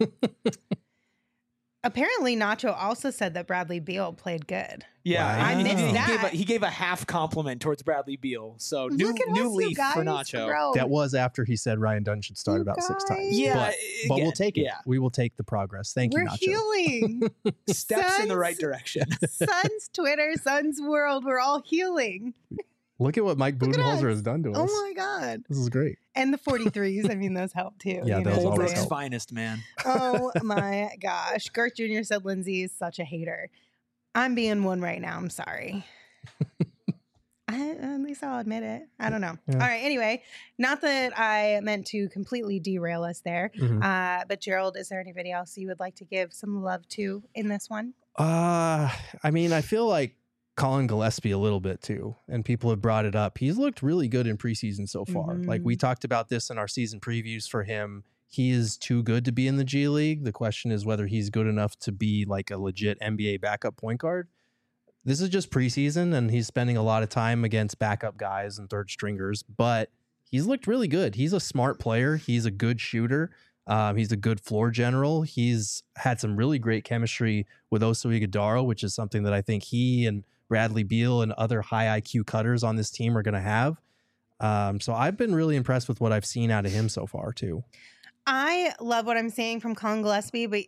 Apparently, Nacho also said that Bradley Beal played good. Yeah. Wow. I missed that. He gave a half compliment towards Bradley Beal. So new Look at us, you leaf for guys, Nacho. bro. That was after he said Ryan Dunn should start You about 6 times. guys. Yeah. But we'll again, take it. Yeah. We will take the progress. Thank We're you, Nacho. healing. Steps in the Suns- right direction. Suns Twitter, Suns World, we're all healing. Look at what Mike Look at Budenholzer us. has done to us. Oh my God. This is great. And the 43s, I mean, those help too. Yeah, you those know what I'm always Holbrook's saying? help. finest, man. Oh my gosh. Gert Jr. said Lindsay is such a hater. I'm being one right now. I'm sorry. At least I'll admit it. I don't know. Yeah. All right. Anyway, not that I meant to completely derail us there, Mhm. but Gerald, is there anybody else you would like to give some love to in this one? I mean, I feel like Colin Gillespie a little bit too, and people have brought it up. He's looked really good in preseason so far. Like we talked about this in our season previews for him. He is too good to be in the G League. The question is whether he's good enough to be like a legit NBA backup point guard. This is just preseason, and he's spending a lot of time against backup guys and third stringers, but he's looked really good. He's a smart player. He's a good shooter. He's a good floor general. He's had some really great chemistry with Oso Iguodala, which is something that I think he and Bradley Beal and other high IQ cutters on this team are going to have. So I've been really impressed with what I've seen out of him so far too. I love what I'm seeing from Colin Gillespie, but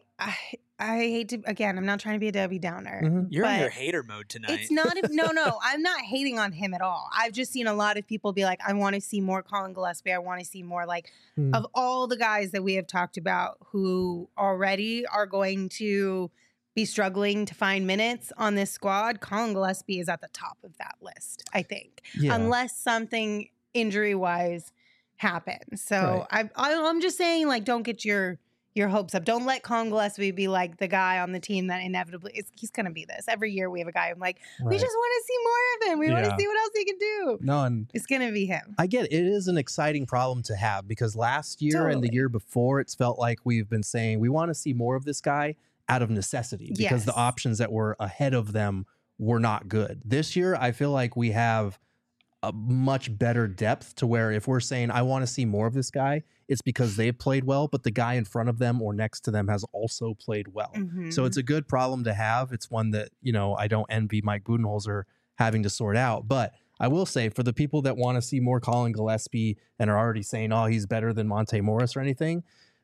I hate to, again, I'm not trying to be a Debbie Downer. Mhm. You're in But your hater mode tonight. It's not, no, I'm not hating on him at all. I've just seen a lot of people be like, I want to see more Colin Gillespie. I want to see more like Hmm. of all the guys that we have talked about who already are going to be struggling to find minutes on this squad. Colin Gillespie is at the top of that list, I think, Yeah. unless something injury wise happens. So I'm just saying, like, don't get your hopes up. Don't let Colin Gillespie be like the guy on the team that inevitably he's going to be this. Every year we have a guy. I'm like, we Right. just want to see more of him. We want Yeah. to see what else he can do. No, and It's going to be him. I get it. It is an exciting problem to have because last year and the Totally. year before, it's felt like we've been saying we want to see more of this guy out of necessity because the Yes. options that were ahead of them were not good. This year, I feel like we have a much better depth to where if we're saying I want to see more of this guy, it's because they've played well, but the guy in front of them or next to them has also played well. Mm-hmm. So it's a good problem to have. It's one that, I don't envy Mike Budenholzer having to sort out. But I will say for the people that want to see more Colin Gillespie and are already saying, oh, he's better than Monte Morris or anything,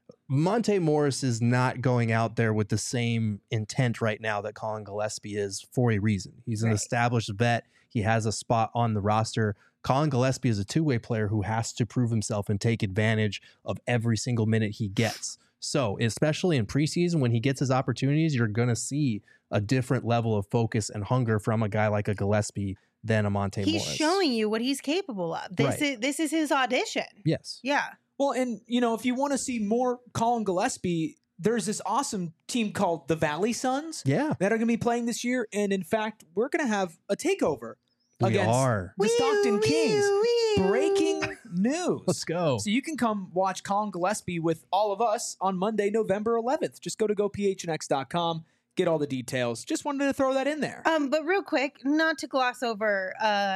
Monte Morris is not going out there with the same intent right now that Colin Gillespie is for a reason. He's an Right. established vet. He has a spot on the roster. Colin Gillespie is a two-way player who has to prove himself and take advantage of every single minute he gets. So, especially in preseason, when he gets his opportunities, you're going to see a different level of focus and hunger from a guy like a Gillespie than a Monte he's Morris. showing you what he's capable of. This is his audition. Yes. Yeah. Well, and if you want to see more Colin Gillespie, there's this awesome team called the Valley Suns Yeah. that are going to be playing this year, and in fact, we're going to have a takeover We against are. the Stockton Kings. Wee. Breaking news. Let's go. So you can come watch Colin Gillespie with all of us on Monday, November 11th. Just go to gophnx.com, get all the details. Just wanted to throw that in there. But real quick, not to gloss over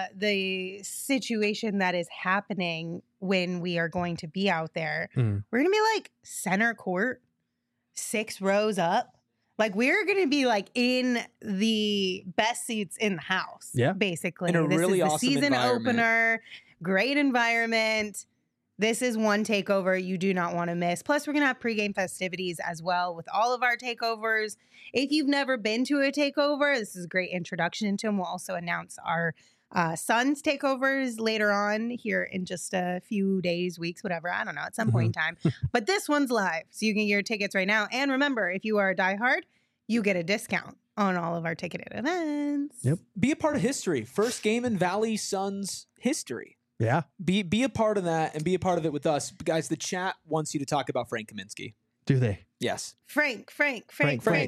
the situation that is happening when we are going to be out there. Mm. We're going to be like center court, 6 rows up. Like we're going to be like in the best seats in the house. Yeah. Basically. In a This really is the awesome season environment. opener, great environment. This is one takeover you do not want to miss. Plus, we're going to have pregame festivities as well with all of our takeovers. If you've never been to a takeover, this is a great introduction into them. We'll also announce our Suns takeovers later on here in just a few days, weeks, whatever. I don't know, at some point in time. But this one's live, so you can get your tickets right now. And remember, if you are a diehard, you get a discount on all of our ticketed events. Yep. Be a part of history. First game in Valley Suns history. Yeah. Be a part of that and be a part of it with us. Guys, the chat wants you to talk about Frank Kaminsky. Do they? Yes. Frank. Everybody.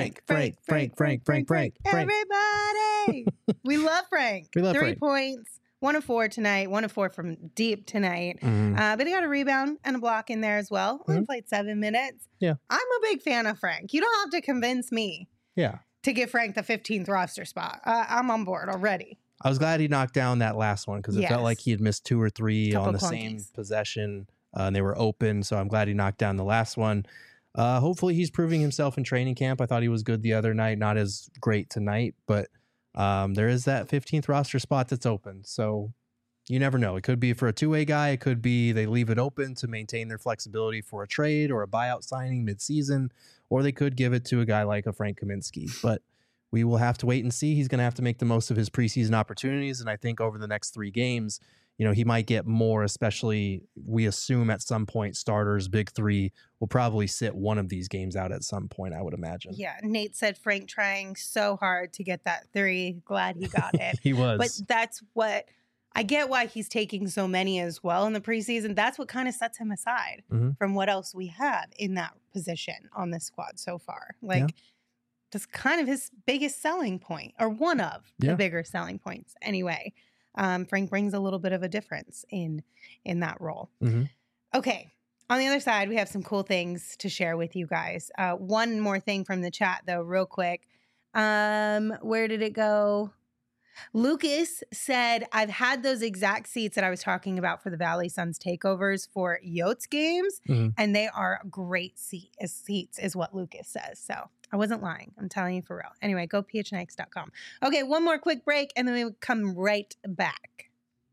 We love Frank. We love 3 Frank. points. 1 of 4 tonight. 1 of 4 from deep tonight. But he got a rebound and a block in there as well. Only played 7 minutes. Yeah. I'm a big fan of Frank. You don't have to convince me Yeah. to give Frank the 15th roster spot. I'm on board already. I was glad he knocked down that last one because it felt Yes. like he had missed 2 or 3 Couple on the same clunkies. possession, and they were open. So I'm glad he knocked down the last one. Hopefully he's proving himself in training camp. I thought he was good the other night, not as great tonight, but there is that 15th roster spot that's open. So you never know. It could be for a two-way guy. It could be they leave it open to maintain their flexibility for a trade or a buyout signing midseason, or they could give it to a guy like a Frank Kaminsky. But we will have to wait and see. He's going to have to make the most of his preseason opportunities. And I think over the next 3 games, he might get more, especially we assume at some point starters, big 3 will probably sit one of these games out at some point, I would imagine. Yeah. Nate said Frank trying so hard to get that 3. Glad he got it. He was. But that's what I get why he's taking so many as well in the preseason. That's what kind of sets him aside from what else we have in that position on this squad so far. That's kind of his biggest selling point, or one of the bigger selling points anyway. Frank brings a little bit of a difference in that role. Okay. On the other side, we have some cool things to share with you guys. One more thing from the chat, though, real quick. Where did it go? Lucas said, I've had those exact seats that I was talking about for the Valley Suns takeovers for Yotes games, and they are great seats, is what Lucas says. So I wasn't lying. I'm telling you for real. Anyway, go phnx.com. Okay, one more quick break, and then we will come right back.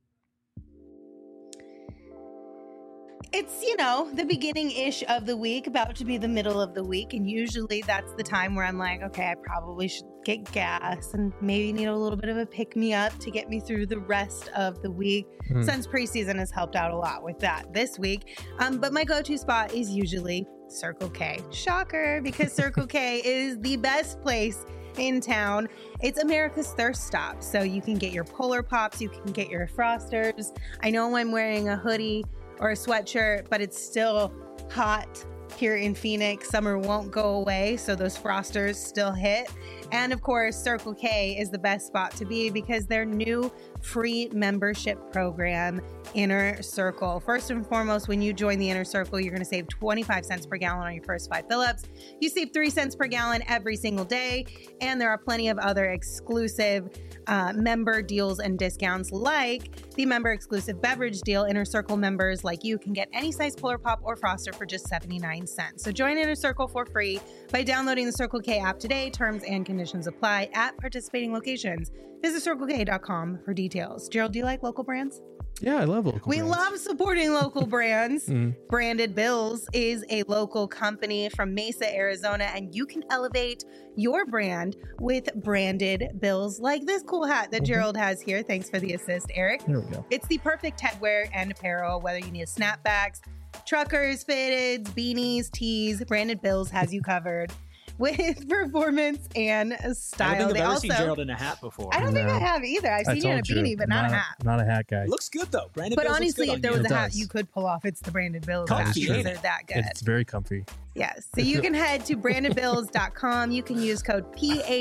It's, the beginning-ish of the week, about to be the middle of the week. And usually that's the time where I'm like, okay, I probably should get gas and maybe need a little bit of a pick-me-up to get me through the rest of the week. Suns preseason has helped out a lot with that this week. But my go-to spot is usually Circle K. Shocker, because Circle K is the best place in town. It's America's thirst stop. So you can get your Polar Pops, you can get your Frosters. I know I'm wearing a hoodie or a sweatshirt, but it's still hot here in Phoenix. Summer won't go away, so those Frosters still hit. And of course, Circle K is the best spot to be because their new free membership program, Inner Circle. First and foremost, when you join the Inner Circle, you're going to save 25 cents per gallon on your first 5 fill-ups. You save 3 cents per gallon every single day. And there are plenty of other exclusive member deals and discounts, like the member exclusive beverage deal. Inner Circle members like you can get any size Polar Pop or Froster for just 79 cents. So join Inner Circle for free by downloading the Circle K app today. Terms and conditions apply at participating locations. Visit CircleK.com for details. Gerald, do you like local brands? Yeah, I love local We brands. love supporting local brands. Branded Bills is a local company from Mesa, Arizona, and you can elevate your brand with branded bills like this cool hat that Gerald has here. Thanks for the assist, Eric. There we go. It's the perfect headwear and apparel, whether you need snapbacks, truckers, fitteds, beanies, tees. Branded Bills has you covered with performance and style. I don't think They I've ever also, seen Gerald in a hat before. I don't think No. I have either. I've I seen you in a told you, beanie, but not a hat. Not a hat guy. Looks good though. Brandon But Bills looks honestly, good if on there you. was a It hat does. you could pull off, it's the Branded Bills Comfy, hat because ain't they're it? that good. It's very comfy. Yes. So you can head to brandedbills.com. You can use code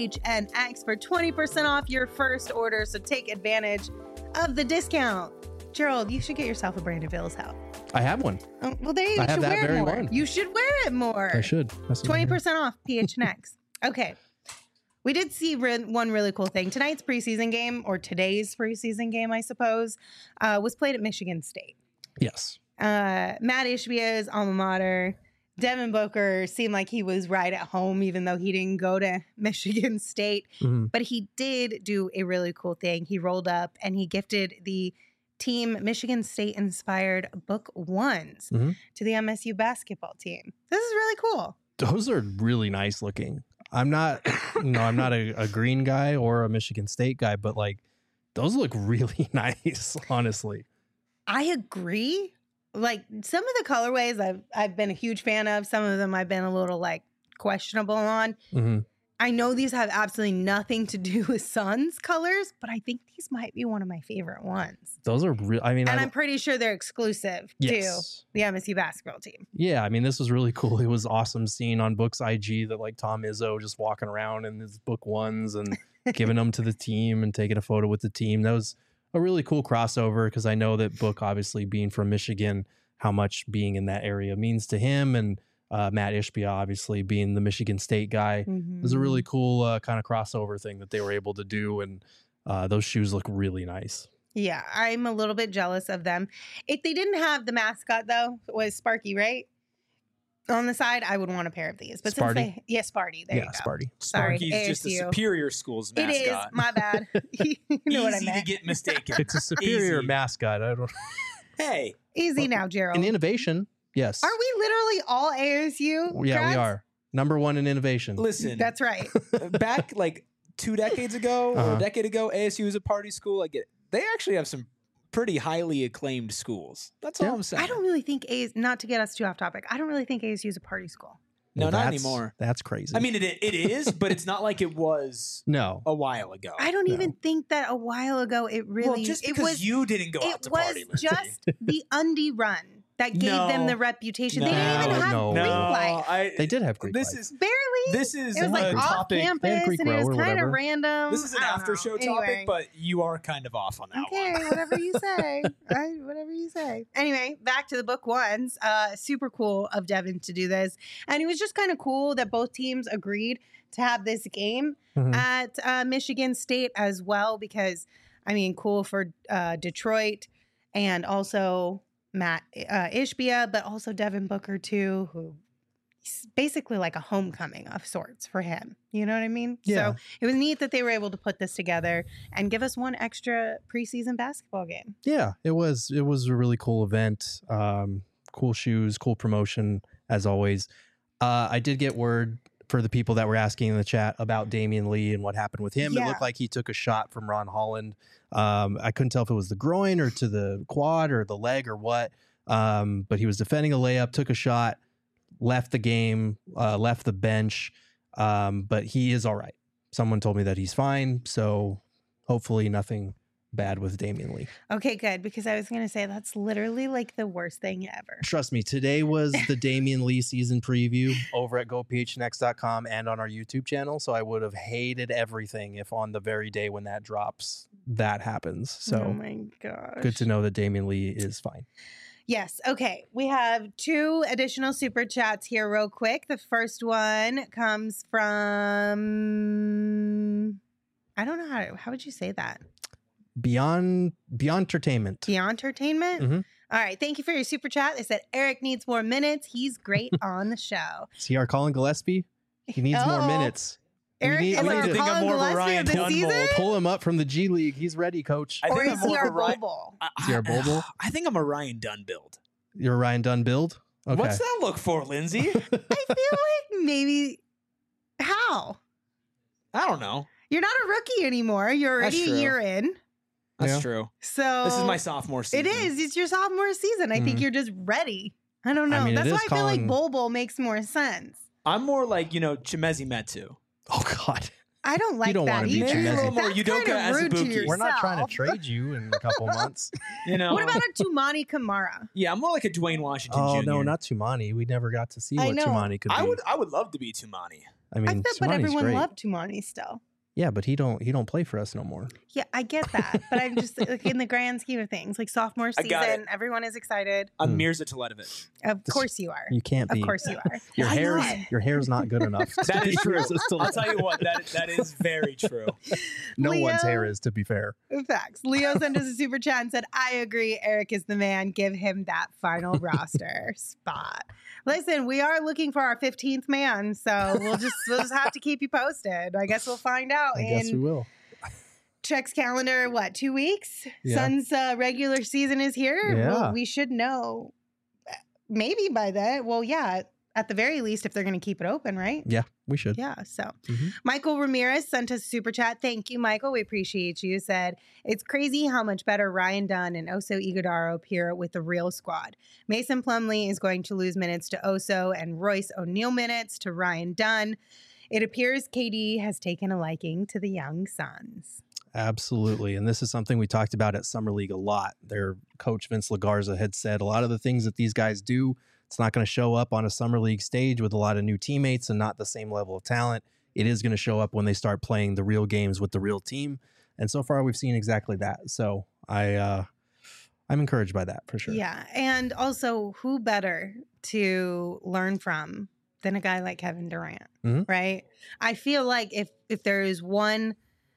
PHNX for 20% off your first order. So take advantage of the discount. Gerald, you should get yourself a Branded Bills hat. I have one. Oh, well, there you I have should that wear it very more. one. You should wear it more. I should. That's what I'm hearing. 20% off PHNX. Okay. We did see one really cool thing. Tonight's preseason game, or today's preseason game, I suppose, was played at Michigan State. Yes. Matt Ishbia's alma mater. Devin Booker seemed like he was right at home, even though he didn't go to Michigan State. But he did do a really cool thing. He rolled up and he gifted the team Michigan State-inspired book ones to the MSU basketball team. This is really cool. Those are really nice looking. I'm not, I'm not a green guy or a Michigan State guy, but like those look really nice, honestly. I agree. Like some of the colorways I've been a huge fan of. Some of them I've been a little like questionable on. Mhm. I know these have absolutely nothing to do with Suns colors, but I think these might be one of my favorite ones. Those are real. I mean, And I'm pretty sure they're exclusive yes. to the MSU basketball team. Yeah, I mean, this was really cool. It was awesome seeing on Book's IG that like Tom Izzo just walking around in his Book ones and giving them to the team and taking a photo with the team. That was a really cool crossover because I know that Book, obviously being from Michigan, how much being in that area means to him, and Matt Ishbia, obviously being the Michigan State guy. It was a really cool kind of crossover thing that they were able to do, and those shoes look really nice. Yeah, I'm a little bit jealous of them. If they didn't have the mascot, though, it was Sparky, right? On the side, I would want a pair of these. But Sparty? since they, Sparty. There you go. Sparty. Sorry, Sparky's just a ASU. superior school's mascot. It is. My bad. You know what I Easy to meant. get mistaken. It's a superior Easy. mascot. I don't. Hey, Easy now, Gerald. In innovation, yes. Are we literally all ASU? Yeah, grads? we are number one in innovation. listen. That's right. Back like 2 decades ago or Uh-huh. a decade ago, ASU was a party school. I get it. They actually have some pretty highly acclaimed schools. That's all Yeah. I'm saying. I don't really think not to get us too off topic. I don't really think ASU is a party school. No, Well, not that's- anymore. That's crazy. I mean, it is, but it's not like it was no. a while ago. I don't No. even think that a while ago it really well, just it because was you didn't go out it to was party, Lindsay. just the undie run that gave them No. the reputation. They No. didn't even have No. Greek no, life. They did have Greek This life. is Barely. this is It was like a off topic. campus Greek and it row was or kind of whatever. random. This is an I don't after know. show Anyway. topic, but you are kind of off on that Okay, one. whatever you say. Whatever you say. Anyway, back to the book ones. Super cool of Devin to do this. And it was just kind of cool that both teams agreed to have this game Mhm. at Michigan State as well, because, I mean, cool for Detroit and also Matt Ishbia, but also Devin Booker, too, who is basically like a homecoming of sorts for him. You know what I mean? Yeah. So it was neat that they were able to put this together and give us one extra preseason basketball game. Yeah, it was a really cool event. Cool shoes, cool promotion as always. I did get word for the people that were asking in the chat about Damian Lee and what happened with him. It Yeah. looked like he took a shot from Ron Holland. I couldn't tell if it was the groin or to the quad or the leg or what. But he was defending a layup, took a shot, left the game, left the bench. But he is all right. Someone told me that he's fine. So hopefully nothing bad with Damian Lee. Okay, good, because I was going to say that's literally like the worst thing ever. Trust me, today was the Damian Lee season preview over at gophnx.com and on our YouTube channel. So I would have hated everything if on the very day when that drops, that happens. Oh So my gosh. good to know that Damian Lee is fine. Yes. Okay. We have 2 additional super chats here, real quick. The first one comes from, I don't know how would you say that? Beyond Entertainment. Beyond Entertainment? Mhm. All right. Thank you for your super chat. They said Eric needs more minutes. He's great on the show. Is he our Colin Gillespie? He needs more Oh. minutes. Eric need- is we our need to- think I'm Colin more of a Gillespie Ryan of the Dunbolt. season? Pull him up from the G League. He's ready, coach. I Or think is I'm he more our of a Ryan. Bobo? Is he our Bobo? I think I'm a Ryan Dunn build. You're a Ryan Dunn build? Okay. What's that look for, Lindsay? I feel like maybe, how? I don't know. You're not a rookie anymore. You're That's already a true. year in. That's Yeah. true. So This is my sophomore season. It is. It's your sophomore season. I think Mhm. you're just ready. I don't know. I mean, That's it why is I feel like Colin- Bobo makes more sense. I'm more like, Chimezi Metu. Oh, God. I don't like don't that wanna be either. Maybe a little more That's Udoka kind of rude to Azubuike. yourself. We're not trying to trade you in a couple months. What about a Tumani Kamara? Yeah, I'm more like a Dwayne Washington Oh, Jr. no, not Tumani. We never got to see I what know. Tumani could be. I would love to be Tumani. I mean, I feel, but Tumani's everyone great. loved Tumani still. Yeah, but he don't play for us no more. Yeah, I get that, but I'm just like in the grand scheme of things, like sophomore I got season, everyone is excited. I'm Hmm. Mirza Teletovic. Of course you are. You can't Of be. course you are. Your Why hair's not? your hair's not good enough. That to is be true. resistant. I'll tell you what, that is very true. No one's Leo- hair is, to be fair. Facts. Leo sent us a super chat and said, I agree. Eric is the man. Give him that final roster spot. Listen, we are looking for our 15th man, so we'll just have to keep you posted. I guess we'll find out I guess we in will. Check's calendar, 2 weeks? Yeah. Suns regular season is here. Yeah. Well, we should know maybe by then. Well, yeah, at the very least, if they're going to keep it open, right? Yeah, we should. Yeah. So Mhm. Michael Ramirez sent us a super chat. Thank you, Michael. We appreciate you. Said, it's crazy how much better Ryan Dunn and Oso Ighodaro appear with the real squad. Mason Plumlee is going to lose minutes to Oso and Royce O'Neal minutes to Ryan Dunn. It appears KD has taken a liking to the young Suns. Absolutely. And this is something we talked about at Summer League a lot. Their coach, Vince LaGarza, had said a lot of the things that these guys do, it's not going to show up on a Summer League stage with a lot of new teammates and not the same level of talent. It is going to show up when they start playing the real games with the real team. And so far, we've seen exactly that. So I'm encouraged by that for sure. Yeah. And also, who better to learn from than a guy like Kevin Durant, right? I feel like if there is one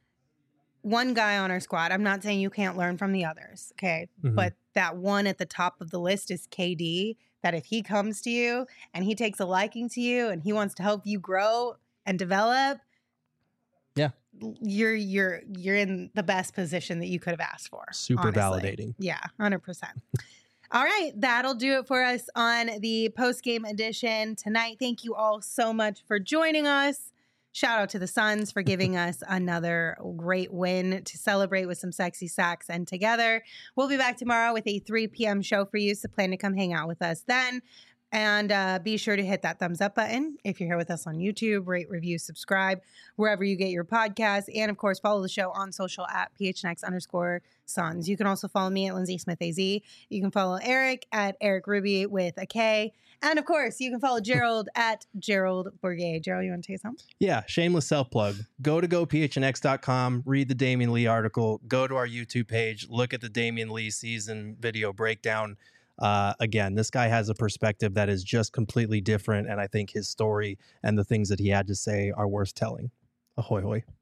guy on our squad, I'm not saying you can't learn from the others, okay? But that one at the top of the list is KD, that if he comes to you and he takes a liking to you and he wants to help you grow and develop, yeah, you're in the best position that you could have asked for. Super honestly. validating. Yeah, 100%. All right, that'll do it for us on the post-game edition tonight. Thank you all so much for joining us. Shout out to the Suns for giving us another great win to celebrate with some sexy sacks and together. We'll be back tomorrow with a 3 p.m. show for you, so plan to come hang out with us then. And be sure to hit that thumbs up button if you're here with us on YouTube. Rate, review, subscribe, wherever you get your podcasts. And, of course, follow the show on social at PHNX_Suns. You can also follow me at Lindsay Smith AZ. You can follow Eric at Eric Ruby with a K. And, of course, you can follow Gerald at Gerald Bourget. Gerald, you want to take us home? Yeah, shameless self-plug. Go to gophnx.com, read the Damian Lee article, go to our YouTube page, look at the Damian Lee season video breakdown. Again, this guy has a perspective that is just completely different, and I think his story and the things that he had to say are worth telling. Ahoy, hoy.